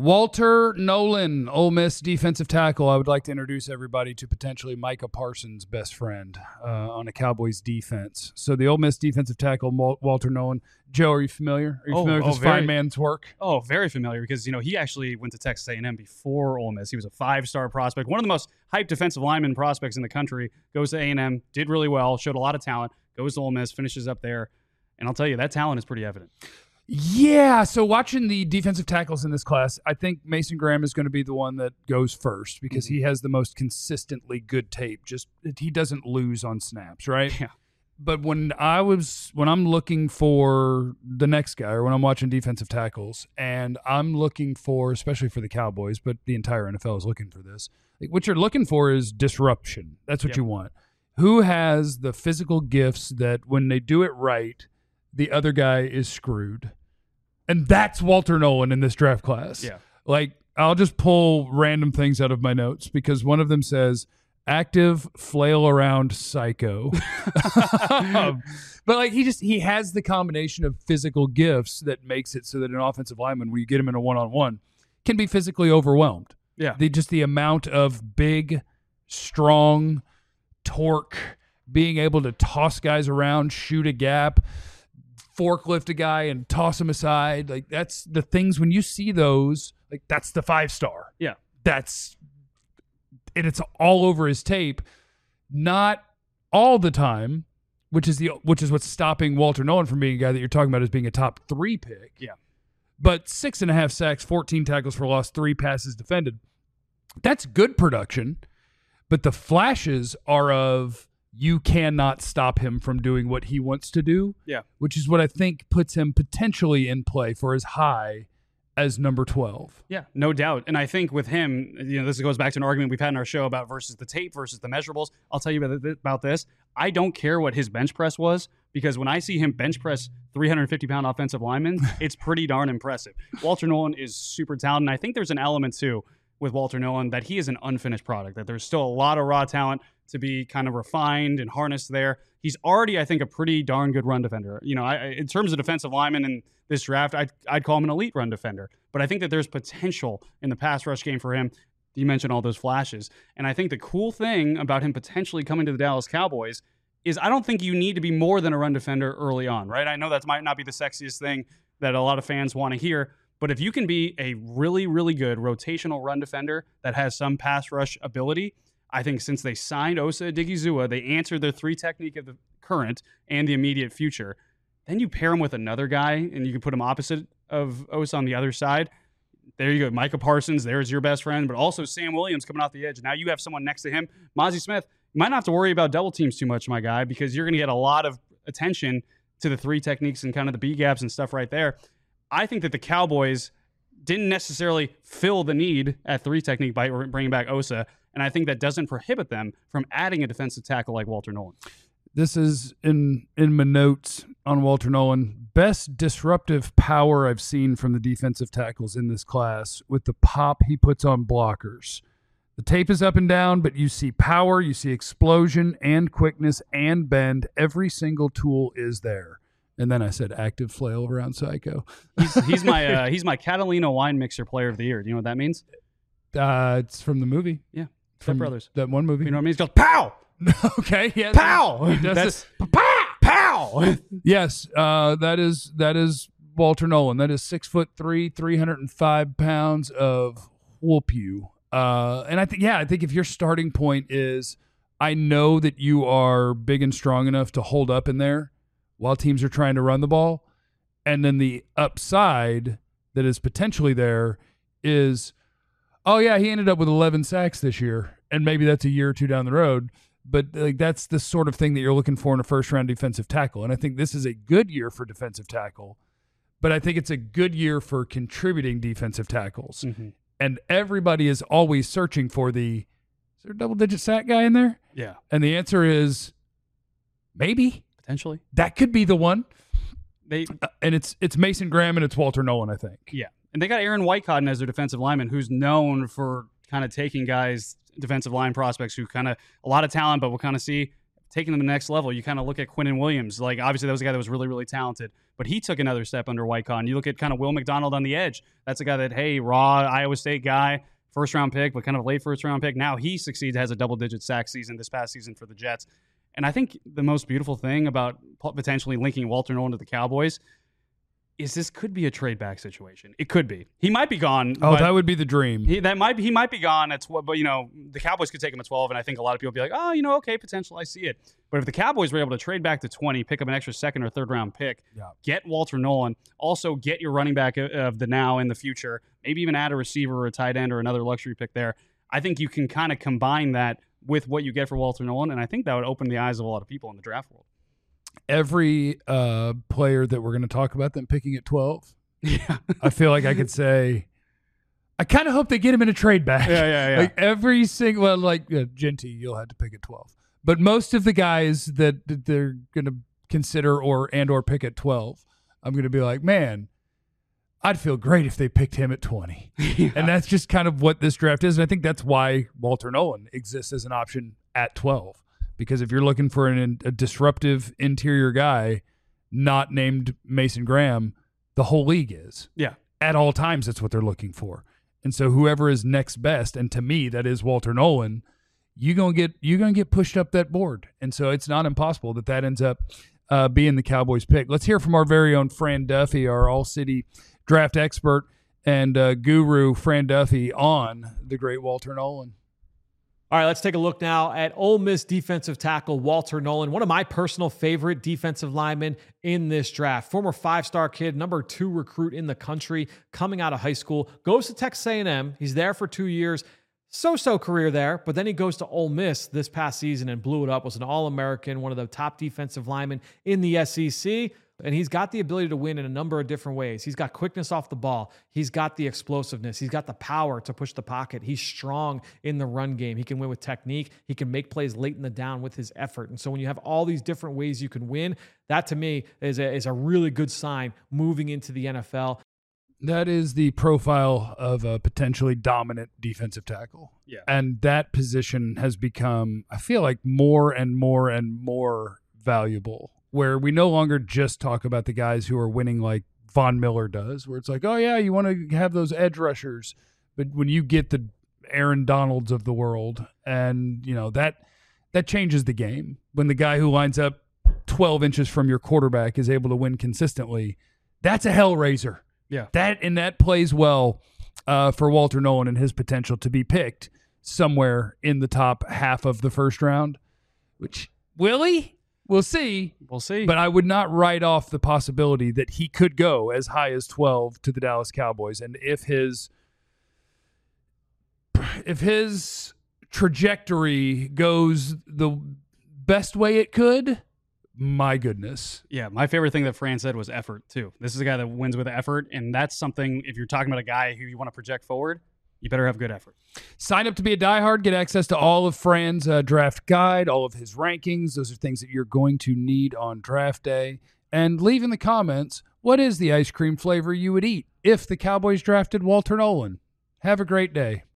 Walter Nolan, Ole Miss defensive tackle. I would like to introduce everybody to potentially Micah Parsons' best friend on a Cowboys defense. So the Ole Miss defensive tackle, Walter Nolan. Joe, are you familiar? Are you familiar with this fine man's work? Oh, very familiar because, he actually went to Texas A&M before Ole Miss. He was a 5-star prospect, one of the most hyped defensive lineman prospects in the country. Goes to A&M, did really well, showed a lot of talent, goes to Ole Miss, finishes up there. And I'll tell you, that talent is pretty evident. Yeah, so watching the defensive tackles in this class, I think Mason Graham is going to be the one that goes first because he has the most consistently good tape. Just he doesn't lose on snaps, right? Yeah. But when I'm looking for the next guy, or when I'm watching defensive tackles, and I'm looking for, especially for the Cowboys, but the entire NFL is looking for this. What you're looking for is disruption. That's what you want. Who has the physical gifts that when they do it right, the other guy is screwed? And that's Walter Nolan in this draft class. Yeah. I'll just pull random things out of my notes because one of them says active flail around psycho. But he has the combination of physical gifts that makes it so that an offensive lineman, when you get him in a one-on-one, can be physically overwhelmed. Yeah. The amount of big, strong torque, being able to toss guys around, shoot a gap, forklift a guy and toss him aside. That's the things when you see those, that's the 5-star. Yeah. And it's all over his tape. Not all the time, which is what's stopping Walter Nolan from being a guy that you're talking about as being a top 3 pick. Yeah. But 6.5 sacks, 14 tackles for loss, 3 passes defended. That's good production. But the flashes are of you cannot stop him from doing what he wants to do. Yeah. Which is what I think puts him potentially in play for as high as number 12. Yeah, no doubt. And I think with him, this goes back to an argument we've had in our show about versus the tape versus the measurables. I'll tell you about this. I don't care what his bench press was because when I see him bench press 350-pound offensive linemen, it's pretty darn impressive. Walter Nolan is super talented. And I think there's an element, too, with Walter Nolan that he is an unfinished product, that there's still a lot of raw talent to be kind of refined and harnessed there. He's already, I think, a pretty darn good run defender. In terms of defensive linemen in this draft, I'd call him an elite run defender. But I think that there's potential in the pass rush game for him. You mentioned all those flashes. And I think the cool thing about him potentially coming to the Dallas Cowboys is I don't think you need to be more than a run defender early on, right? I know that might not be the sexiest thing that a lot of fans want to hear, but if you can be a really, really good rotational run defender that has some pass rush ability, I think since they signed Osa Odighizuwa, they answered their 3 technique of the current and the immediate future. Then you pair him with another guy, and you can put him opposite of Osa on the other side. There you go. Micah Parsons, there's your best friend, but also Sam Williams coming off the edge. Now you have someone next to him. Mazi Smith, you might not have to worry about double teams too much, my guy, because you're going to get a lot of attention to the 3 techniques and kind of the B gaps and stuff right there. I think that the Cowboys didn't necessarily fill the need at 3 technique by bringing back Osa, and I think that doesn't prohibit them from adding a defensive tackle like Walter Nolan. This is in my notes on Walter Nolan. Best disruptive power I've seen from the defensive tackles in this class with the pop he puts on blockers. The tape is up and down, but you see power, you see explosion and quickness and bend. Every single tool is there. And then I said active flail around psycho. He's my Catalina wine mixer player of the year. Do you know what that means? It's from the movie. Yeah. Step Brothers. That one movie. You know what I mean? He goes, pow! Okay. Yeah. Pow! That's pow! Yes. That is Walter Nolan. That is 6'3", 305 pounds of whoop you. And I think if your starting point is, I know that you are big and strong enough to hold up in there while teams are trying to run the ball, and then the upside that is potentially there is, oh yeah, he ended up with 11 sacks this year, and maybe that's a year or two down the road, but that's the sort of thing that you're looking for in a first-round defensive tackle, and I think this is a good year for defensive tackle, but I think it's a good year for contributing defensive tackles, and everybody is always searching for is there a double-digit sack guy in there? Yeah. And the answer is maybe. Potentially. That could be the one. And it's Mason Graham and it's Walter Nolan, I think. Yeah. And they got Aaron Whitecotton as their defensive lineman, who's known for kind of taking guys, defensive line prospects who kind of a lot of talent, but we'll kind of see taking them to the next level. You kind of look at Quinnen Williams. Like, obviously, that was a guy that was really, really talented, but he took another step under Wycon. You look at kind of Will McDonald on the edge. That's a guy that, hey, raw Iowa State guy, first-round pick, but kind of late first-round pick. Now he succeeds, has a double-digit sack season this past season for the Jets. And I think the most beautiful thing about potentially linking Walter Nolen to the Cowboys is this could be a trade back situation. It could be. He might be gone. Oh, that would be the dream. He might be gone at 12, but the Cowboys could take him at 12, and I think a lot of people would be like, oh, okay, potential, I see it. But if the Cowboys were able to trade back to 20, pick up an extra second or third round pick, get Walter Nolen, also get your running back of the now and the future, maybe even add a receiver or a tight end or another luxury pick there, I think you can kind of combine that with what you get for Walter Nolen, and I think that would open the eyes of a lot of people in the draft world. Every player that we're going to talk about them picking at 12, I feel like I could say, I kind of hope they get him in a trade back. Yeah. Like every single, Genty, you'll have to pick at 12. But most of the guys that they're going to consider or pick at 12, I'm going to be like, man, I'd feel great if they picked him at 20. And that's just kind of what this draft is. And I think that's why Walter Nolen exists as an option at 12. Because if you're looking for a disruptive interior guy not named Mason Graham, the whole league is. Yeah. At all times, that's what they're looking for. And so whoever is next best, and to me, that is Walter Nolen, you're gonna get pushed up that board. And so it's not impossible that ends up being the Cowboys pick. Let's hear from our very own Fran Duffy, our all-city draft expert and guru, Fran Duffy, on the great Walter Nolen. All right, let's take a look now at Ole Miss defensive tackle Walter Nolen, one of my personal favorite defensive linemen in this draft. Former five-star kid, number 2 recruit in the country, coming out of high school, goes to Texas A&M. He's there for 2 years. So-so career there, but then he goes to Ole Miss this past season and blew it up, was an All-American, one of the top defensive linemen in the SEC. And he's got the ability to win in a number of different ways. He's got quickness off the ball. He's got the explosiveness. He's got the power to push the pocket. He's strong in the run game. He can win with technique. He can make plays late in the down with his effort. And so when you have all these different ways you can win, that to me is a really good sign moving into the NFL. That is the profile of a potentially dominant defensive tackle. Yeah. And that position has become, I feel like, more and more and more valuable, where we no longer just talk about the guys who are winning like Von Miller does, where it's like, oh, yeah, you want to have those edge rushers. But when you get the Aaron Donalds of the world, and, that changes the game. When the guy who lines up 12 inches from your quarterback is able to win consistently, that's a hellraiser. Yeah. That plays well for Walter Nolen and his potential to be picked somewhere in the top half of the first round, which, will he? We'll see. We'll see. But I would not write off the possibility that he could go as high as 12 to the Dallas Cowboys. And if his trajectory goes the best way it could, my goodness. Yeah, my favorite thing that Fran said was effort, too. This is a guy that wins with effort, and that's something, if you're talking about a guy who you want to project forward, you better have good effort. Sign up to be a diehard. Get access to all of Fran's draft guide, all of his rankings. Those are things that you're going to need on draft day. And leave in the comments, what is the ice cream flavor you would eat if the Cowboys drafted Walter Nolen? Have a great day.